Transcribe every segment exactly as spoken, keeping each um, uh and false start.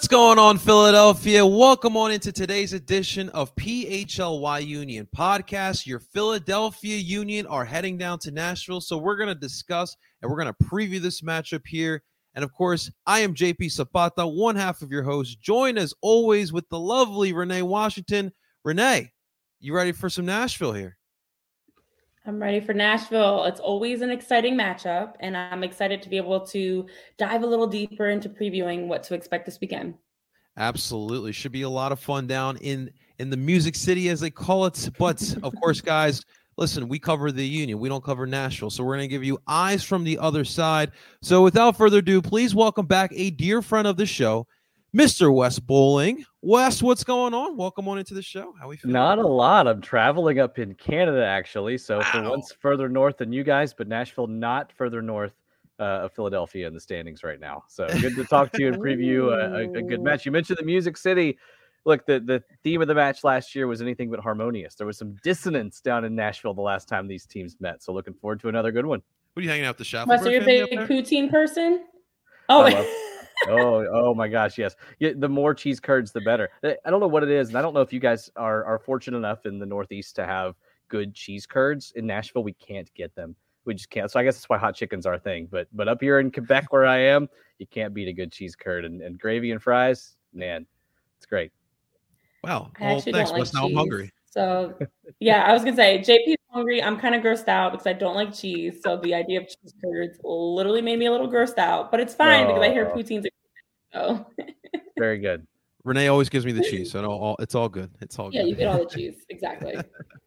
going on, Philadelphia? Welcome on into today's edition of P H L Y Union Podcast. Your Philadelphia Union are heading down to Nashville, so we're going to discuss and we're going to preview this matchup here. And, of course, I am J P Zapata, one half of your host, joined as always with the lovely Renee Washington. Renee, you ready for some Nashville here? I'm ready for Nashville. It's always an exciting matchup, and I'm excited to be able to dive a little deeper into previewing what to expect this weekend. Absolutely. Should be a lot of fun down in, in the Music City, as they call it. But, of course, guys, listen, we cover the Union. We don't cover Nashville, so we're going to give you eyes from the other side. So without further ado, please welcome back a dear friend of the show, Mister Wes Bowling. Wes, what's going on? Welcome on into the show. How are we feeling? Not a lot. I'm traveling up in Canada, actually. So Wow. for once further north than you guys, but Nashville not further north uh, of Philadelphia in the standings right now. So good to talk to you and preview a, a, a good match. You mentioned the Music City. Look, the, the theme of the match last year was anything but harmonious. There was some dissonance down in Nashville the last time these teams met. So looking forward to another good one. What are you hanging out the Schaffenberg Wes, are you a big poutine person? Oh, I love- oh, oh my gosh, yes. Yeah, the more cheese curds, the better. I don't know what it is, and I don't know if you guys are are fortunate enough in the Northeast to have good cheese curds. In Nashville, we can't get them. We just can't. So I guess that's why hot chicken's our thing. But but up here in Quebec, where I am, you can't beat a good cheese curd and, and gravy and fries. Man, it's great. Wow. I Well, actually thanks, don't like Wes. Now I'm cheese. hungry. So, yeah, I was going to say, J P's hungry. I'm kind of grossed out because I don't like cheese. So the idea of cheese curds literally made me a little grossed out. But it's fine because I hear Oh. poutines are so. Very good. Renee always gives me the cheese, so no, all, it's all good. It's all Yeah, good. you get all the cheese. Exactly.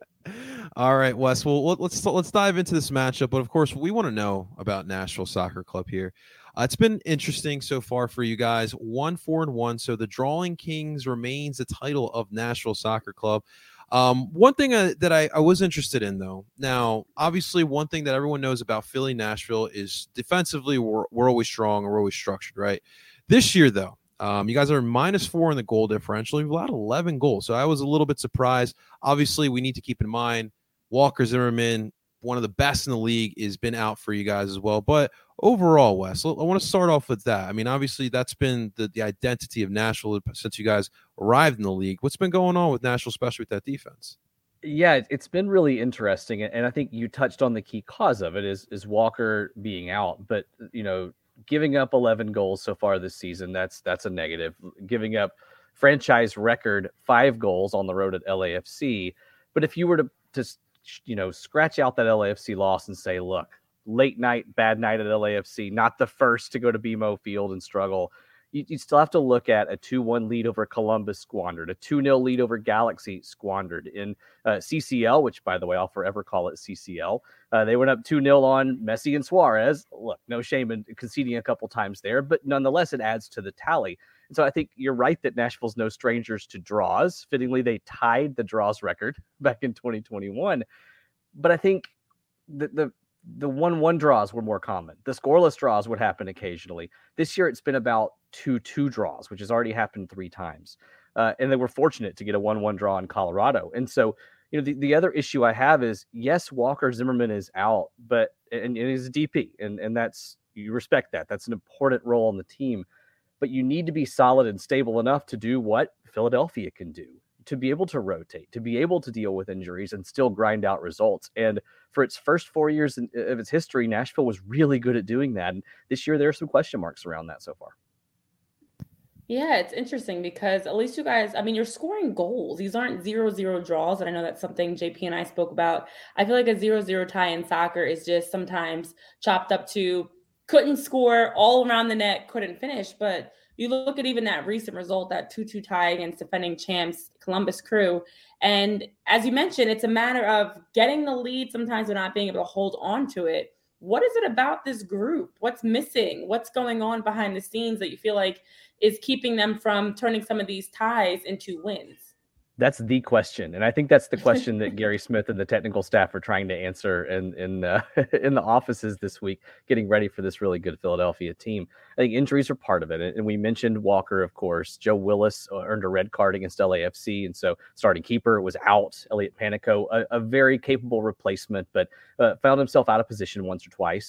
All right, Wes. Well, let- let's let's dive into this matchup. But of course, we want to know about Nashville Soccer Club here. Uh, it's been interesting so far for you guys. One, four, and one. So the Drawing Kings remains the title of Nashville Soccer Club. Um, one thing uh, that I, I was interested in, though. Now, obviously, one thing that everyone knows about Philly Nashville is defensively we're we're always strong and we're always structured, right? This year, though, um, you guys are minus four in the goal differential. You've allowed eleven goals, so I was a little bit surprised. Obviously, we need to keep in mind Walker Zimmerman, one of the best in the league, has been out for you guys as well. But overall, Wes, I want to start off with that. I mean, obviously, that's been the, the identity of Nashville since you guys arrived in the league. What's been going on with Nashville, especially with that defense? Yeah, it- it's been really interesting, and I think you touched on the key cause of it is is Walker being out. But you know, giving up eleven goals so far this season, that's that's a negative. Giving up franchise record five goals on the road at L A F C. But if you were to just you know scratch out that L A F C loss and say, look, late night, bad night at L A F C, not the first to go to B M O Field and struggle. You, you still have to look at a two one lead over Columbus squandered, a two nil lead over Galaxy squandered. In uh, C C L, which, by the way, I'll forever call it C C L, uh, they went up two nil on Messi and Suarez. Look, no shame in conceding a couple times there, but nonetheless, it adds to the tally. And so I think you're right that Nashville's no strangers to draws. Fittingly, they tied the draws record back in twenty twenty-one. But I think the the the one one draws were more common. The scoreless draws would happen occasionally. This year, it's been about two two draws, which has already happened three times. Uh, and they were fortunate to get a one one draw in Colorado. And so, you know, the, the other issue I have is, yes, Walker Zimmerman is out, but and, and he's a D P, and, and that's, you respect that. That's an important role on the team. But you need to be solid and stable enough to do what Philadelphia can do, to be able to rotate, to be able to deal with injuries and still grind out results. And for its first four years in, of its history, Nashville was really good at doing that. And this year, there are some question marks around that so far. Yeah, it's interesting because at least you guys, I mean, you're scoring goals. These aren't zero zero draws. And I know that's something J P and I spoke about. I feel like a zero zero tie in soccer is just sometimes chopped up to couldn't score all around the net, couldn't finish. But you look at even that recent result, that two two tie against defending champs Columbus Crew. And as you mentioned, it's a matter of getting the lead sometimes but not being able to hold on to it. What is it about this group? What's missing? What's going on behind the scenes that you feel like is keeping them from turning some of these ties into wins? That's the question, and I think that's the question that Gary Smith and the technical staff are trying to answer in in uh, in the offices this week, getting ready for this really good Philadelphia team. I think injuries are part of it, and we mentioned Walker, of course. Joe Willis earned a red card against L A F C, and so starting keeper was out. Elliot Panico, a, a very capable replacement, but uh, found himself out of position once or twice, and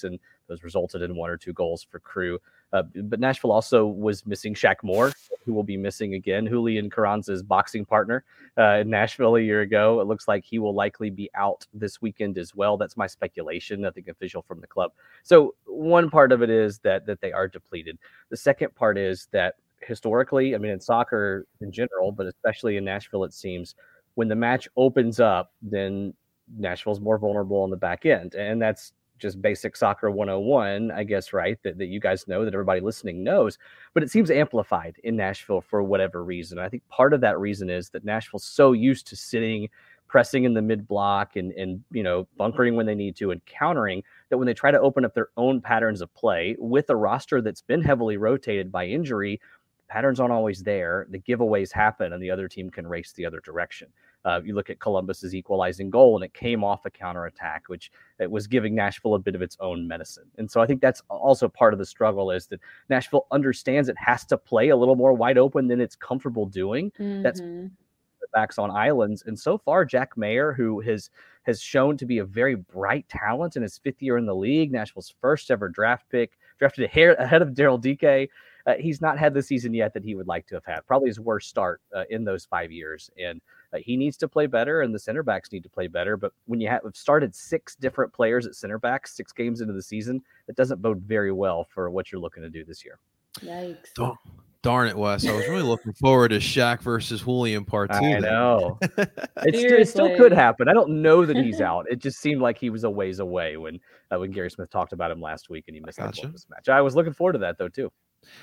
Those resulted in one or two goals for Crew. Uh, but Nashville also was missing Shaq Moore, who will be missing again. Julian Carranza's boxing partner uh, in Nashville a year ago. It looks like he will likely be out this weekend as well. That's my speculation, nothing official from the club. So one part of it is that that they are depleted. The second part is that historically, I mean, in soccer in general, but especially in Nashville, it seems when the match opens up, then Nashville's more vulnerable on the back end. And that's just basic soccer one oh one, I guess, right? That, that you guys know, that everybody listening knows, but it seems amplified in Nashville for whatever reason. I think part of that reason is that Nashville's so used to sitting, pressing in the mid block and, and, you know, bunkering when they need to and countering, that when they try to open up their own patterns of play with a roster that's been heavily rotated by injury, patterns aren't always there. The giveaways happen and the other team can race the other direction. Uh, you look at Columbus's equalizing goal, and it came off a counterattack, which it was giving Nashville a bit of its own medicine. And so I think that's also part of the struggle, is that Nashville understands it has to play a little more wide open than it's comfortable doing. Mm-hmm. That's backs on islands. And so far, Jack Mayer, who has has shown to be a very bright talent in his fifth year in the league, Nashville's first ever draft pick, drafted ahead of Daryl Dike. Uh, he's not had the season yet that he would like to have had. Probably his worst start uh, in those five years. And uh, he needs to play better, and the center backs need to play better. But when you have started six different players at center backs, six games into the season, it doesn't bode very well for what you're looking to do this year. Yikes. Oh, darn it, Wes. I was really looking forward to Shaq versus Julian part two. I know. it, still, it still could happen. I don't know that he's out. It just seemed like he was a ways away when uh, when Gary Smith talked about him last week and he missed gotcha. the match. I was looking forward to that, though, too.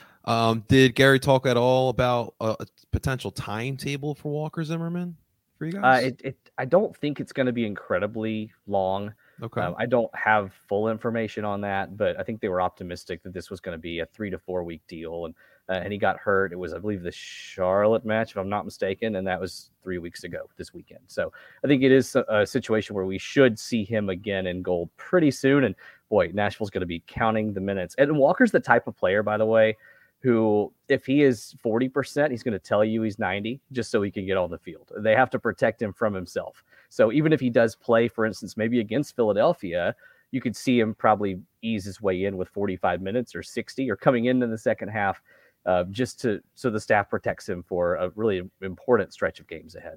Um, did Gary talk at all about a, a potential timetable for Walker Zimmerman for you guys? Uh, it, it, I don't think it's going to be incredibly long. Okay. Um, I don't have full information on that, but I think they were optimistic that this was going to be a three to four week deal. And uh, and he got hurt. It was, I believe, the Charlotte match, if I'm not mistaken, and that was three weeks ago this weekend. So I think it is a, a situation where we should see him again in goal pretty soon. And boy, Nashville's going to be counting the minutes. And Walker's the type of player, by the way, who, if he is forty percent, he's going to tell you he's ninety just so he can get on the field. They have to protect him from himself. So even if he does play, for instance, maybe against Philadelphia, you could see him probably ease his way in with forty-five minutes or sixty or coming in in the second half uh, just to so the staff protects him for a really important stretch of games ahead.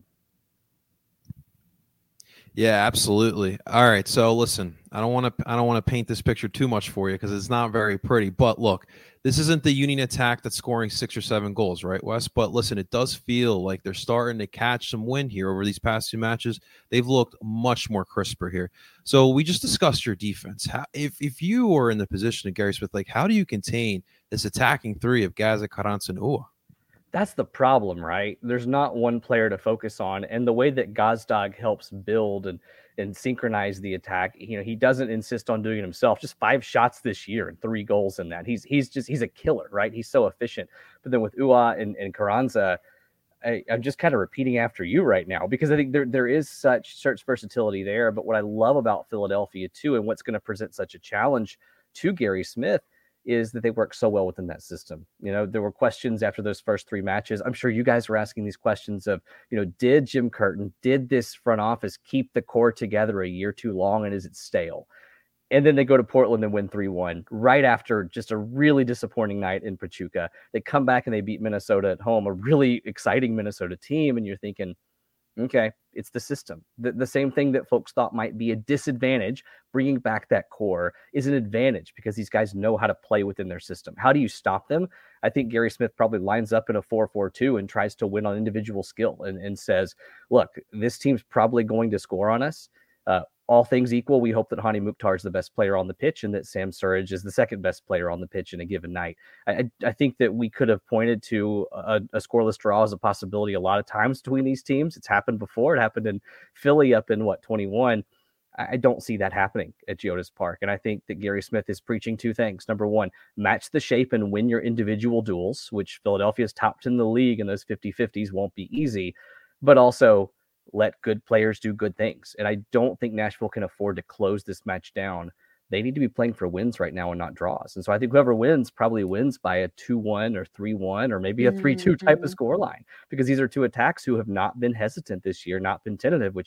Yeah, absolutely. All right. So listen, I don't want to I don't want to paint this picture too much for you because it's not very pretty. But look, this isn't the Union attack that's scoring six or seven goals, right, Wes? But listen, it does feel like they're starting to catch some wind here over these past two matches. They've looked much more crisper here. So we just discussed your defense. How, if if you are in the position of Gary Smith, like how do you contain this attacking three of Gaza, Carranza, and Uhre? That's the problem, right? There's not one player to focus on. And the way that Gazdag helps build and, and synchronize the attack, you know, he doesn't insist on doing it himself. Just five shots this year and three goals in that. He's he's just, he's a killer, right? He's so efficient. But then with Uhre and, and Carranza, I, I'm just kind of repeating after you right now, because I think there there is such, such versatility there. But what I love about Philadelphia too, and what's going to present such a challenge to Gary Smith, is that they work so well within that system. You know, there were questions after those first three matches. I'm sure you guys were asking these questions of, you know, did Jim Curtin, did this front office keep the core together a year too long, and is it stale? And then they go to Portland and win three one right after just a really disappointing night in Pachuca. They come back and they beat Minnesota at home, a really exciting Minnesota team. And you're thinking, okay, it's the system. The, the same thing that folks thought might be a disadvantage, bringing back that core, is an advantage because these guys know how to play within their system. How do you stop them? I think Gary Smith probably lines up in a four four two and tries to win on individual skill and, and says, look, this team's probably going to score on us. Uh, all things equal, we hope that Hani Mukhtar is the best player on the pitch and that Sam Surridge is the second best player on the pitch in a given night. I, I think that we could have pointed to a, a scoreless draw as a possibility a lot of times between these teams. It's happened before. It happened in Philly up in, what, twenty-one. I don't see that happening at Geodis Park. And I think that Gary Smith is preaching two things. Number one, match the shape and win your individual duels, which Philadelphia's topped in the league, and those fifty-fifties won't be easy. But also, let good players do good things. And I don't think Nashville can afford to close this match down. They need to be playing for wins right now and not draws. And so I think whoever wins probably wins by a two one or three one or maybe a three two mm-hmm. type of scoreline, because these are two attacks who have not been hesitant this year, not been tentative, which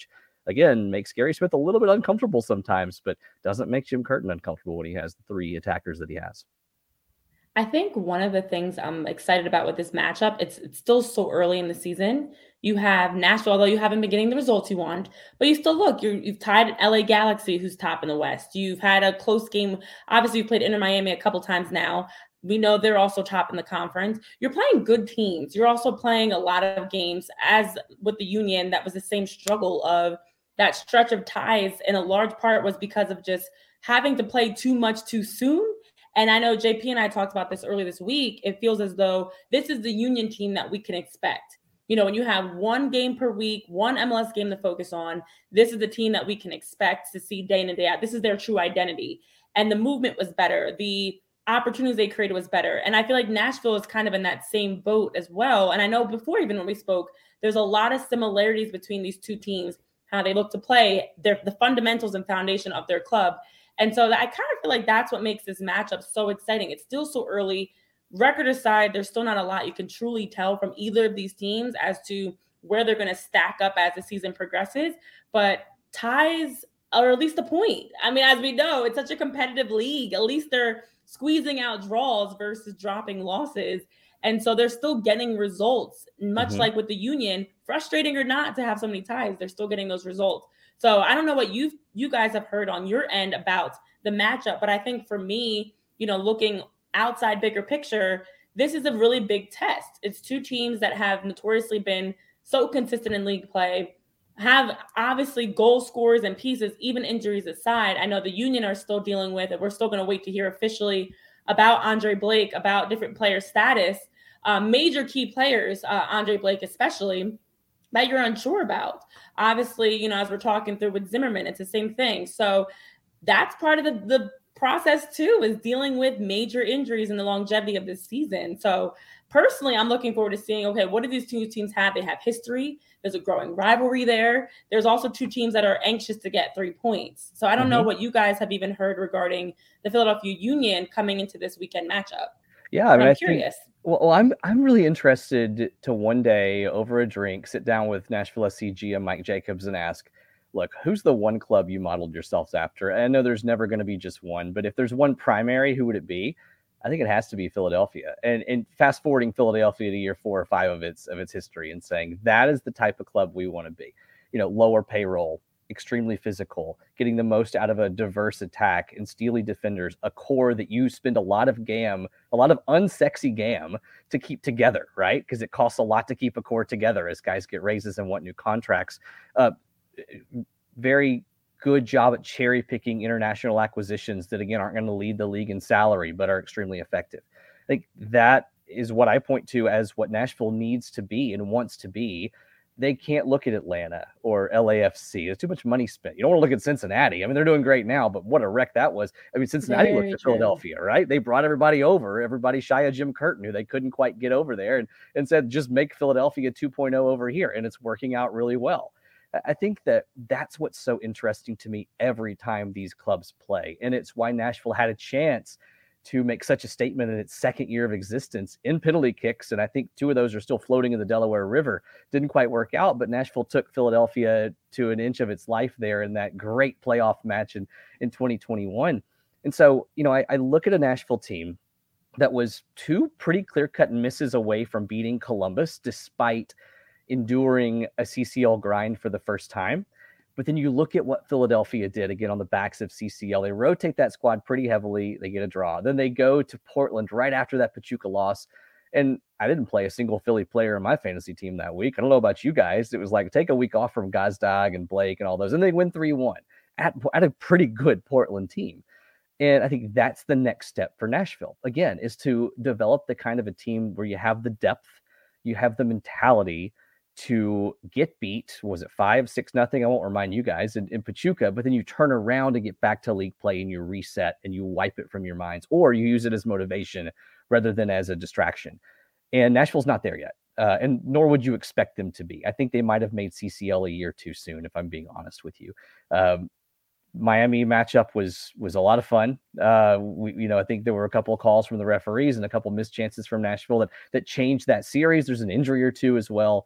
again, makes Gary Smith a little bit uncomfortable sometimes, but doesn't make Jim Curtin uncomfortable when he has the three attackers that he has. I think one of the things I'm excited about with this matchup, it's it's still so early in the season. You have Nashville, although you haven't been getting the results you want, but you still look, you're, you've tied L A Galaxy, who's top in the West. You've had a close game. Obviously, you've played Inter Miami a couple times now. We know they're also top in the conference. You're playing good teams. You're also playing a lot of games, as with the Union, that was the same struggle of that stretch of ties. And a large part was because of just having to play too much too soon. And I know J P and I talked about this earlier this week. It feels as though this is the Union team that we can expect. You know, when you have one game per week, one M L S game to focus on, this is the team that we can expect to see day in and day out. This is their true identity. And the movement was better. The opportunities they created was better. And I feel like Nashville is kind of in that same boat as well. And I know before, even when we spoke, there's a lot of similarities between these two teams, how they look to play, their, the fundamentals and foundation of their club. And so I kind of feel like that's what makes this matchup so exciting. It's still so early. Record aside, there's still not a lot you can truly tell from either of these teams as to where they're going to stack up as the season progresses. But ties are at least a point. I mean, as we know, it's such a competitive league. At least they're squeezing out draws versus dropping losses. And so they're still getting results, much mm-hmm. like with the Union, frustrating or not to have so many ties, they're still getting those results. So I don't know what you you guys have heard on your end about the matchup, but I think for me, you know, looking outside bigger picture, this is a really big test. It's two teams that have notoriously been so consistent in league play, have obviously goal scorers and pieces, even injuries aside. I know the Union are still dealing with it. We're still going to wait to hear officially about Andre Blake, about different player status, um, major key players, uh, Andre Blake especially, that you're unsure about. Obviously, you know, as we're talking through with Zimmerman, it's the same thing. So that's part of the, the process too, is dealing with major injuries and the longevity of this season. So personally, I'm looking forward to seeing, okay, what do these two teams have? They have history. There's a growing rivalry there. There's also two teams that are anxious to get three points. So I don't mm-hmm. know what you guys have even heard regarding the Philadelphia Union coming into this weekend matchup. Yeah, I mean, I'm I curious. Think, well, I'm I'm really interested to one day over a drink sit down with Nashville S C G M Mike Jacobs and ask, look, who's the one club you modeled yourselves after? And I know there's never going to be just one, but if there's one primary, who would it be? I think it has to be Philadelphia. And and fast forwarding Philadelphia to year four or five of its of its history and saying that is the type of club we want to be. You know, lower payroll, extremely physical, getting the most out of a diverse attack and steely defenders, a core that you spend a lot of gam, a lot of unsexy gam to keep together, right? Because it costs a lot to keep a core together as guys get raises and want new contracts. Uh, very good job at cherry picking international acquisitions that, again, aren't going to lead the league in salary, but are extremely effective. I think that is what I point to as what Nashville needs to be and wants to be. They can't look at Atlanta or L A F C. There's too much money spent. You don't want to look at Cincinnati. I mean, they're doing great now, but what a wreck that was. I mean, Cincinnati Very looked at true. Philadelphia, right? They brought everybody over, everybody shy of Jim Curtin, who they couldn't quite get over there, and, and said, just make Philadelphia two point oh over here. And it's working out really well. I think that that's what's so interesting to me every time these clubs play. And it's why Nashville had a chance to make such a statement in its second year of existence in penalty kicks. And I think two of those are still floating in the Delaware River. Didn't quite work out, but Nashville took Philadelphia to an inch of its life there in that great playoff match in, in twenty twenty-one. And so, you know, I, I look at a Nashville team that was two pretty clear-cut misses away from beating Columbus, despite enduring a C C L grind for the first time. But then you look at what Philadelphia did, again, on the backs of C C L. They rotate that squad pretty heavily. They get a draw. Then they go to Portland right after that Pachuca loss. And I didn't play a single Philly player in my fantasy team that week. I don't know about you guys. It was like, take a week off from Gazdag and Blake and all those. And they win three one at, at a pretty good Portland team. And I think that's the next step for Nashville, again, is to develop the kind of a team where you have the depth, you have the mentality to get beat. Was it five, six, nothing? I won't remind you guys in, in Pachuca, but then you turn around and get back to league play and you reset and you wipe it from your minds, or you use it as motivation rather than as a distraction. And Nashville's not there yet. Uh, and nor would you expect them to be. I think they might have made C C L a year too soon, if I'm being honest with you. Um, Miami matchup was was a lot of fun. Uh, we, you know, I think there were a couple of calls from the referees and a couple of missed chances from Nashville that that changed that series. There's an injury or two as well.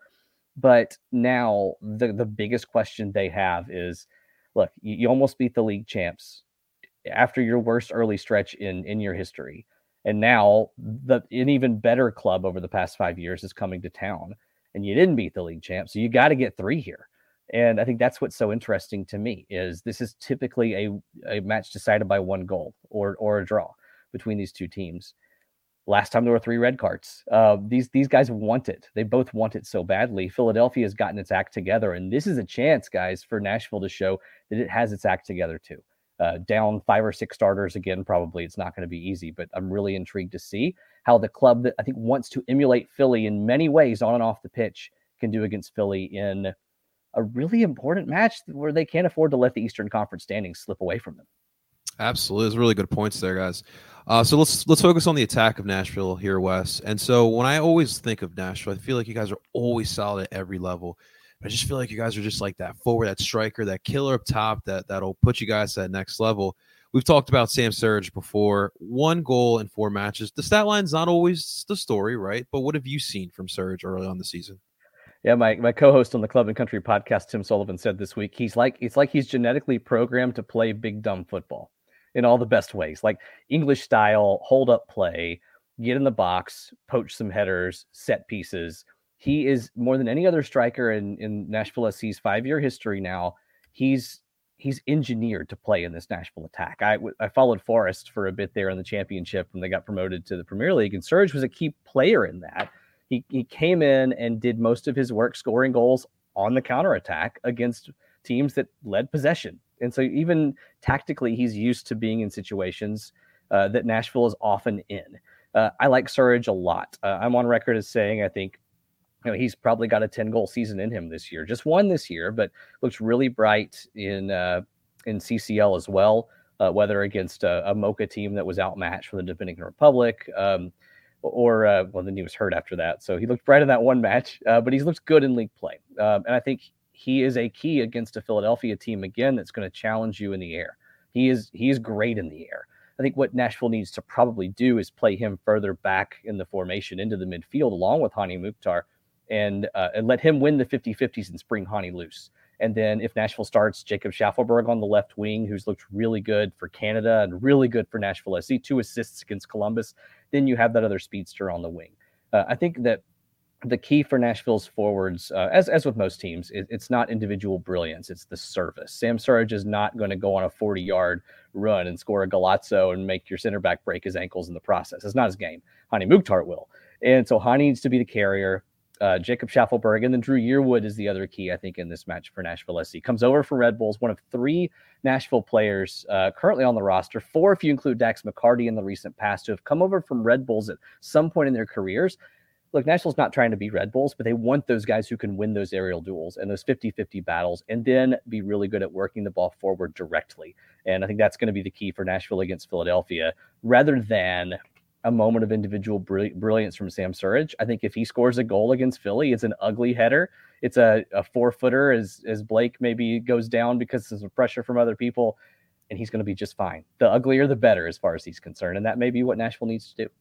But now the, the biggest question they have is, look, you, you almost beat the league champs after your worst early stretch in, in your history. And now the an even better club over the past five years is coming to town, and you didn't beat the league champs. So you got to get three here. And I think that's what's so interesting to me is this is typically a, a match decided by one goal or or a draw between these two teams. Last time there were three red cards. Uh, these these guys want it. They both want it so badly. Philadelphia has gotten its act together, and this is a chance, guys, for Nashville to show that it has its act together too. Uh, down five or six starters again, probably it's not going to be easy, but I'm really intrigued to see how the club that I think wants to emulate Philly in many ways on and off the pitch can do against Philly in a really important match where they can't afford to let the Eastern Conference standings slip away from them. Absolutely. There's really good points there, guys. Uh, so let's let's focus on the attack of Nashville here, Wes. And so when I always think of Nashville, I feel like you guys are always solid at every level. I just feel like you guys are just like that forward, that striker, that killer up top that, that'll put you guys to that next level. We've talked about Sam Surridge before. One goal in four matches. The stat line's not always the story, right? But what have you seen from Surridge early on the season? Yeah, my, my co-host on the Club and Country podcast, Tim Sullivan, said this week, he's like it's like he's genetically programmed to play big dumb football in all the best ways, like English style, hold up play, get in the box, poach some headers, set pieces. He is more than any other striker in, in Nashville S C's five-year history now. He's he's engineered to play in this Nashville attack. I, I followed Forest for a bit there in the championship when they got promoted to the Premier League, and Surridge was a key player in that. He he came in and did most of his work scoring goals on the counterattack against teams that led possession. And so even tactically, he's used to being in situations uh, that Nashville is often in. Uh, I like Surridge a lot. Uh, I'm on record as saying I think you know he's probably got a ten-goal season in him this year. Just one this year, but looks really bright in uh, in C C L as well, uh, whether against a, a Mocha team that was outmatched from the Dominican Republic, um, or uh, well, then he was hurt after that. So he looked bright in that one match, uh, but he's looked good in league play. Um, and I think he is a key against a Philadelphia team, again, that's going to challenge you in the air. He is he is great in the air. I think what Nashville needs to probably do is play him further back in the formation into the midfield along with Hani Mukhtar and, uh, and let him win the fifty-fifties and spring Hani loose. And then if Nashville starts Jacob Schaffelberg on the left wing, who's looked really good for Canada and really good for Nashville S C, two assists against Columbus, then you have that other speedster on the wing. Uh, I think that the key for Nashville's forwards, uh, as as with most teams, it, it's not individual brilliance, it's the service. Sam Surridge is not going to go on a forty-yard run and score a Galazzo and make your center back break his ankles in the process. It's not his game. Hani Mukhtar will. And so Hani needs to be the carrier. Uh, Jacob Schaffelberg, and then Drew Yearwood is the other key, I think, in this match for Nashville S C. Comes over from Red Bulls, one of three Nashville players uh, currently on the roster, four if you include Dax McCarty in the recent past, who have come over from Red Bulls at some point in their careers. Look, Nashville's not trying to be Red Bulls, but they want those guys who can win those aerial duels and those fifty-fifty battles and then be really good at working the ball forward directly. And I think that's going to be the key for Nashville against Philadelphia, rather than a moment of individual brilliance from Sam Surridge. I think if he scores a goal against Philly, it's an ugly header. It's a, a four-footer as, as Blake maybe goes down because of pressure from other people, and he's going to be just fine. The uglier, the better as far as he's concerned, and that may be what Nashville needs to do.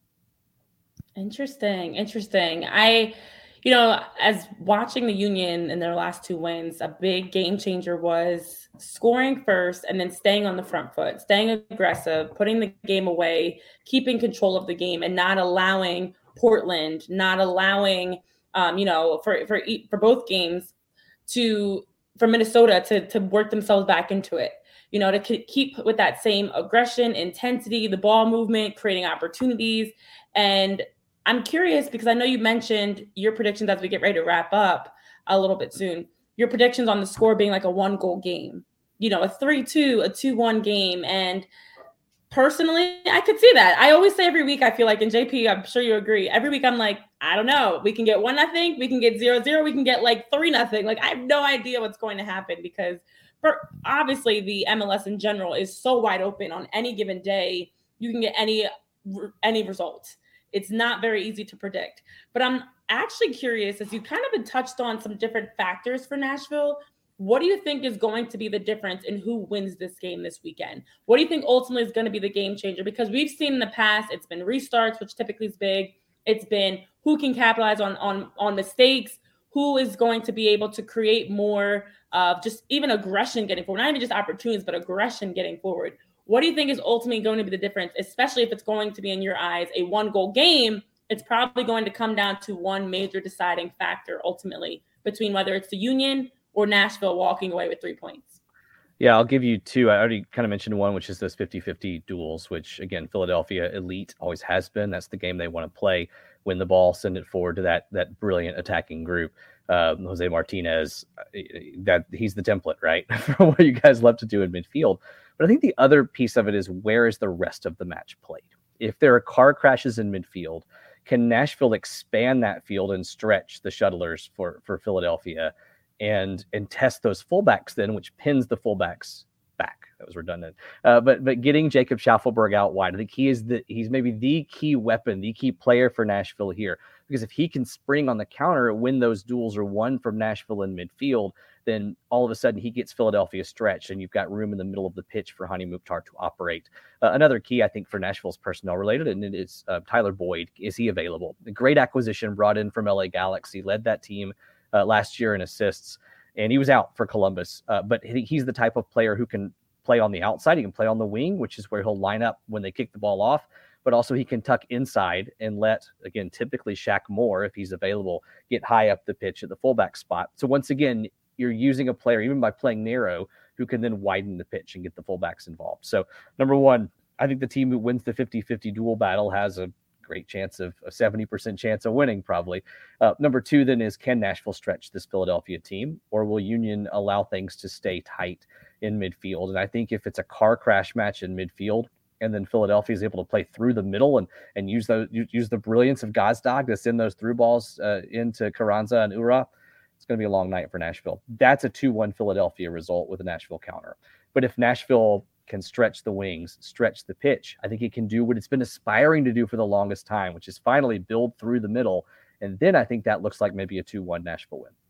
Interesting. Interesting. I, you know, as watching the Union in their last two wins, a big game changer was scoring first and then staying on the front foot, staying aggressive, putting the game away, keeping control of the game, and not allowing Portland, not allowing, um, you know, for for for both games to for Minnesota to to work themselves back into it. You know, to keep with that same aggression, intensity, the ball movement, creating opportunities. And I'm curious because I know you mentioned your predictions as we get ready to wrap up a little bit soon. Your predictions on the score being like a one goal game, you know, a three two, a two one game. And personally, I could see that. I always say every week, I feel like, and J P, I'm sure you agree. Every week I'm like, I don't know. We can get one nothing. We can get zero zero. We can get like three nothing. Like I have no idea what's going to happen because for obviously the M L S in general is so wide open on any given day. You can get any any result. It's not very easy to predict. But I'm actually curious, as you kind of been touched on some different factors for Nashville, what do you think is going to be the difference in who wins this game this weekend? What do you think ultimately is going to be the game changer? Because we've seen in the past, it's been restarts, which typically is big. It's been who can capitalize on, on, on mistakes, who is going to be able to create more of just even aggression getting forward, not even just opportunities, but aggression getting forward. What do you think is ultimately going to be the difference, especially if it's going to be, in your eyes, a one-goal game? It's probably going to come down to one major deciding factor ultimately between whether it's the Union or Nashville walking away with three points. Yeah, I'll give you two. I already kind of mentioned one, which is those fifty-fifty duels, which, again, Philadelphia elite always has been. That's the game they want to play. Win the ball, send it forward to that that brilliant attacking group. Uh, Jose Martinez, that he's the template, right, for what you guys love to do in midfield. But I think the other piece of it is, where is the rest of the match played? If there are car crashes in midfield, can Nashville expand that field and stretch the shuttlers for, for Philadelphia and and test those fullbacks then, which pins the fullbacks back? That was redundant. Uh, but but getting Jacob Schaffelberg out wide, I think he is the he's maybe the key weapon, the key player for Nashville here. Because if he can spring on the counter when those duels are won from Nashville in midfield, then all of a sudden he gets Philadelphia stretched, and you've got room in the middle of the pitch for Hani Mukhtar to operate. Uh, another key, I think, for Nashville's personnel related, and it is uh, Tyler Boyd. Is he available? A great acquisition brought in from L A Galaxy, led that team uh, last year in assists, and he was out for Columbus. Uh, but he, he's the type of player who can play on the outside. He can play on the wing, which is where he'll line up when they kick the ball off. But also he can tuck inside and let, again, typically Shaq Moore, if he's available, get high up the pitch at the fullback spot. So once again, you're using a player, even by playing narrow, who can then widen the pitch and get the fullbacks involved. So number one, I think the team who wins the fifty-fifty duel battle has a great chance of a seventy percent chance of winning, probably. Uh, number two then is, can Nashville stretch this Philadelphia team, or will Union allow things to stay tight in midfield? And I think if it's a car crash match in midfield, and then Philadelphia is able to play through the middle and and use those use the brilliance of Gazdag to send those through balls uh, into Carranza and Ura, it's going to be a long night for Nashville. That's a two one Philadelphia result with a Nashville counter. But if Nashville can stretch the wings, stretch the pitch, I think it can do what it's been aspiring to do for the longest time, which is finally build through the middle. And then I think that looks like maybe a two one Nashville win.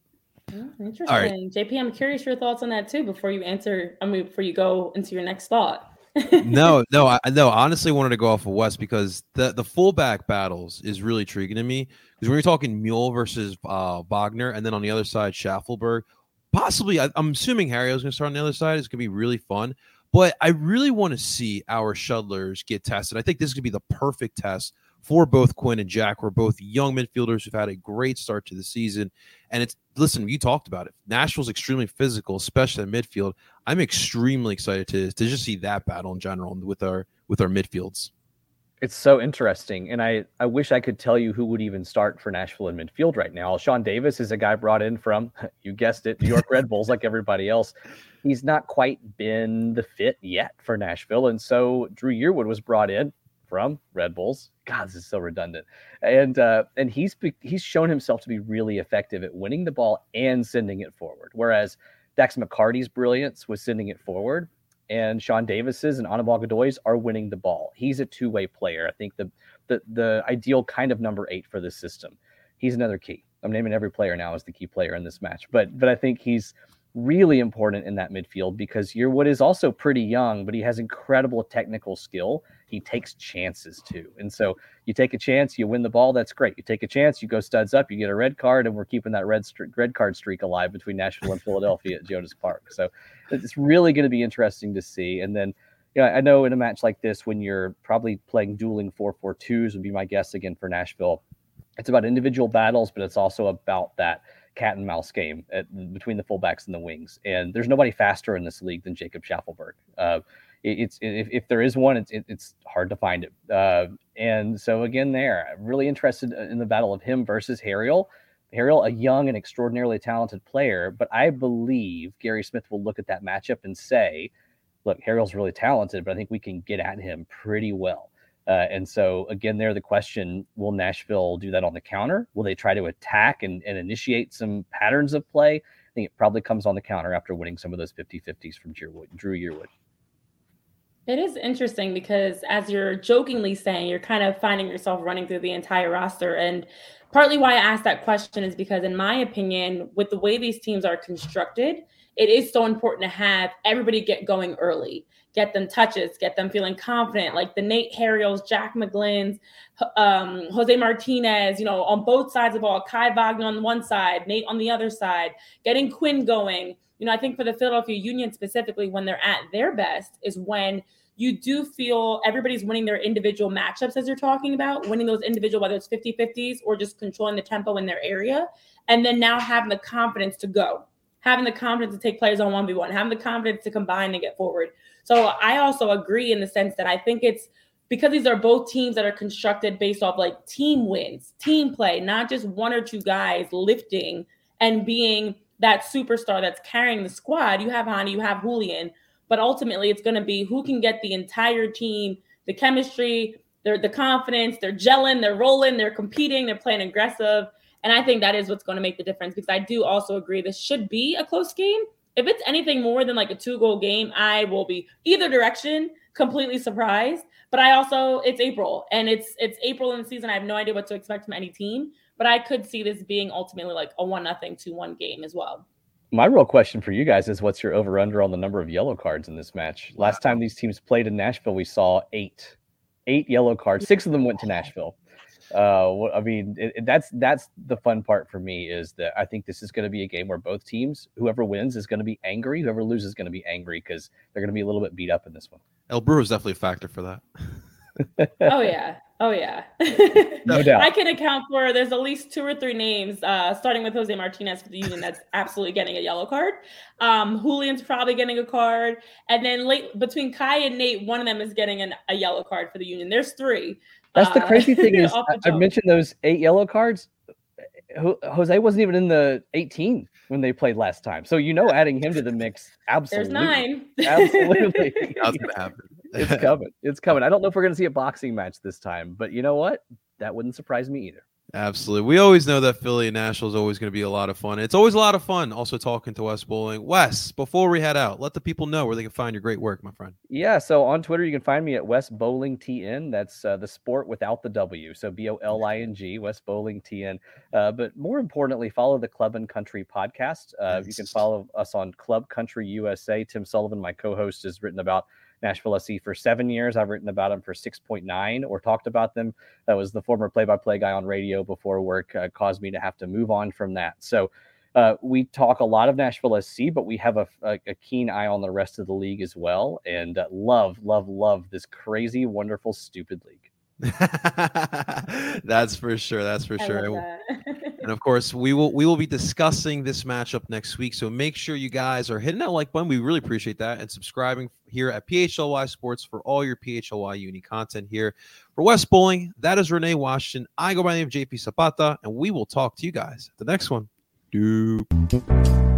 Oh, interesting. Right. J P, I'm curious your thoughts on that too before you answer, I mean, before you go into your next thought. no, no, I no. Honestly, wanted to go off of West because the the fullback battles is really intriguing to me. Because when you're talking Mule versus uh, Wagner, and then on the other side Schaffelberg, possibly I, I'm assuming Harrio's going to start on the other side. It's going to be really fun. But I really want to see our shuttlers get tested. I think this is going to be the perfect test for both Quinn and Jack. We're both young midfielders who've had a great start to the season. And it's, listen, you talked about it. Nashville's extremely physical, especially in midfield. I'm extremely excited to, to just see that battle in general with our with our midfields. It's so interesting. And I, I wish I could tell you who would even start for Nashville in midfield right now. Sean Davis is a guy brought in from, you guessed it, New York Red Bulls, like everybody else. He's not quite been the fit yet for Nashville. And so Drew Yearwood was brought in from Red Bulls. God, this is so redundant. And uh, and he's he's shown himself to be really effective at winning the ball and sending it forward. Whereas Dax McCarty's brilliance was sending it forward, and Sean Davis's and Anibal Godoy's are winning the ball. He's a two-way player. I think the the the ideal kind of number eight for this system. He's another key. I'm naming every player now as the key player in this match, but but I think he's really important in that midfield because Yearwood is also pretty young, but he has incredible technical skill. He takes chances too. And so you take a chance, you win the ball, that's great. You take a chance, you go studs up, you get a red card, and we're keeping that red st- red card streak alive between Nashville and Philadelphia at Jonas Park. So it's really going to be interesting to see. And then, you know, I know in a match like this, when you're probably playing dueling four four twos would be my guess again for Nashville. It's about individual battles, but it's also about that cat and mouse game at, between the fullbacks and the wings. And there's nobody faster in this league than Jacob Schaffelberg. Uh, it, it's if, if there is one, it's it, it's hard to find it. Uh, and so again, there, I'm really interested in the battle of him versus Harriel. Harriel, a young and extraordinarily talented player, but I believe Gary Smith will look at that matchup and say, look, Harriel's really talented, but I think we can get at him pretty well. Uh, and so, again, there, the question, will Nashville do that on the counter? Will they try to attack and, and initiate some patterns of play? I think it probably comes on the counter after winning some of those fifty-fifties from Yearwood, Drew Yearwood. It is interesting because, as you're jokingly saying, you're kind of finding yourself running through the entire roster. And partly why I asked that question is because, in my opinion, with the way these teams are constructed, it is so important to have everybody get going early, get them touches, get them feeling confident, like the Nate Harriels, Jack McGlynn's, um, Jose Martinez, you know, on both sides of the ball, Kai Wagner on one side, Nate on the other side, getting Quinn going. You know, I think for the Philadelphia Union specifically, when they're at their best is when you do feel everybody's winning their individual matchups, as you're talking about, winning those individual, whether it's fifty-fifties or just controlling the tempo in their area. And then now having the confidence to go, having the confidence to take players on one v one, having the confidence to combine and get forward. So I also agree in the sense that I think it's because these are both teams that are constructed based off like team wins, team play, not just one or two guys lifting and being that superstar that's carrying the squad. You have Hani, you have Julian, but ultimately it's going to be who can get the entire team, the chemistry, their the confidence, they're gelling, they're rolling, they're competing, they're playing aggressive. And I think that is what's going to make the difference, because I do also agree this should be a close game. If it's anything more than like a two-goal game, I will be either direction completely surprised. But I also, it's April, and it's it's April in the season. I have no idea what to expect from any team, but I could see this being ultimately like a one nothing, two one game as well. My real question for you guys is, what's your over-under on the number of yellow cards in this match? Last time these teams played in Nashville, we saw eight, eight yellow cards. Six of them went to Nashville. Uh, I mean, it, it, that's that's the fun part for me, is that I think this is going to be a game where both teams, whoever wins is going to be angry, whoever loses is going to be angry, because they're going to be a little bit beat up in this one. El Brewer is definitely a factor for that. Oh yeah, oh yeah. No doubt. I can account for, there's at least two or three names, uh, starting with Jose Martinez for the Union, that's absolutely getting a yellow card. Um, Julian's probably getting a card, and then late between Kai and Nate, one of them is getting an, a yellow card for the Union. There's three. That's the crazy thing is, Uh, I mentioned those eight yellow cards. Jose wasn't even in the eighteen when they played last time. So, you know, adding him to the mix, absolutely. There's nine. Absolutely. That's going to happen. It's coming. It's coming. I don't know if we're going to see a boxing match this time, but you know what? That wouldn't surprise me either. Absolutely. We always know that Philly and Nashville is always going to be a lot of fun. It's always a lot of fun also talking to Wes Bowling. Wes, before we head out, let the people know where they can find your great work, my friend. Yeah, so on Twitter, you can find me at Wes Bowling T N. That's uh, the sport without the W. So B O L I N G, Wes Bowling T N. Uh, but more importantly, follow the Club and Country podcast. Uh, nice. You can follow us on Club Country U S A. Tim Sullivan, my co-host, has written about Nashville S C for seven years. I've written about them for six point nine or talked about them. That was the former play-by-play guy on radio before work uh, caused me to have to move on from that. So uh, we talk a lot of Nashville S C, but we have a, a, a keen eye on the rest of the league as well. And uh, love, love, love this crazy, wonderful, stupid league. That's for sure. That's for I sure. love that. And of course, we will we will be discussing this matchup next week. So make sure you guys are hitting that like button. We really appreciate that, and subscribing here at P H L Y Sports for all your P H L Y Uni content here. For Wes Bowling, that is Renee Washington. I go by the name of J P Zapata, and we will talk to you guys at the next one. Doop.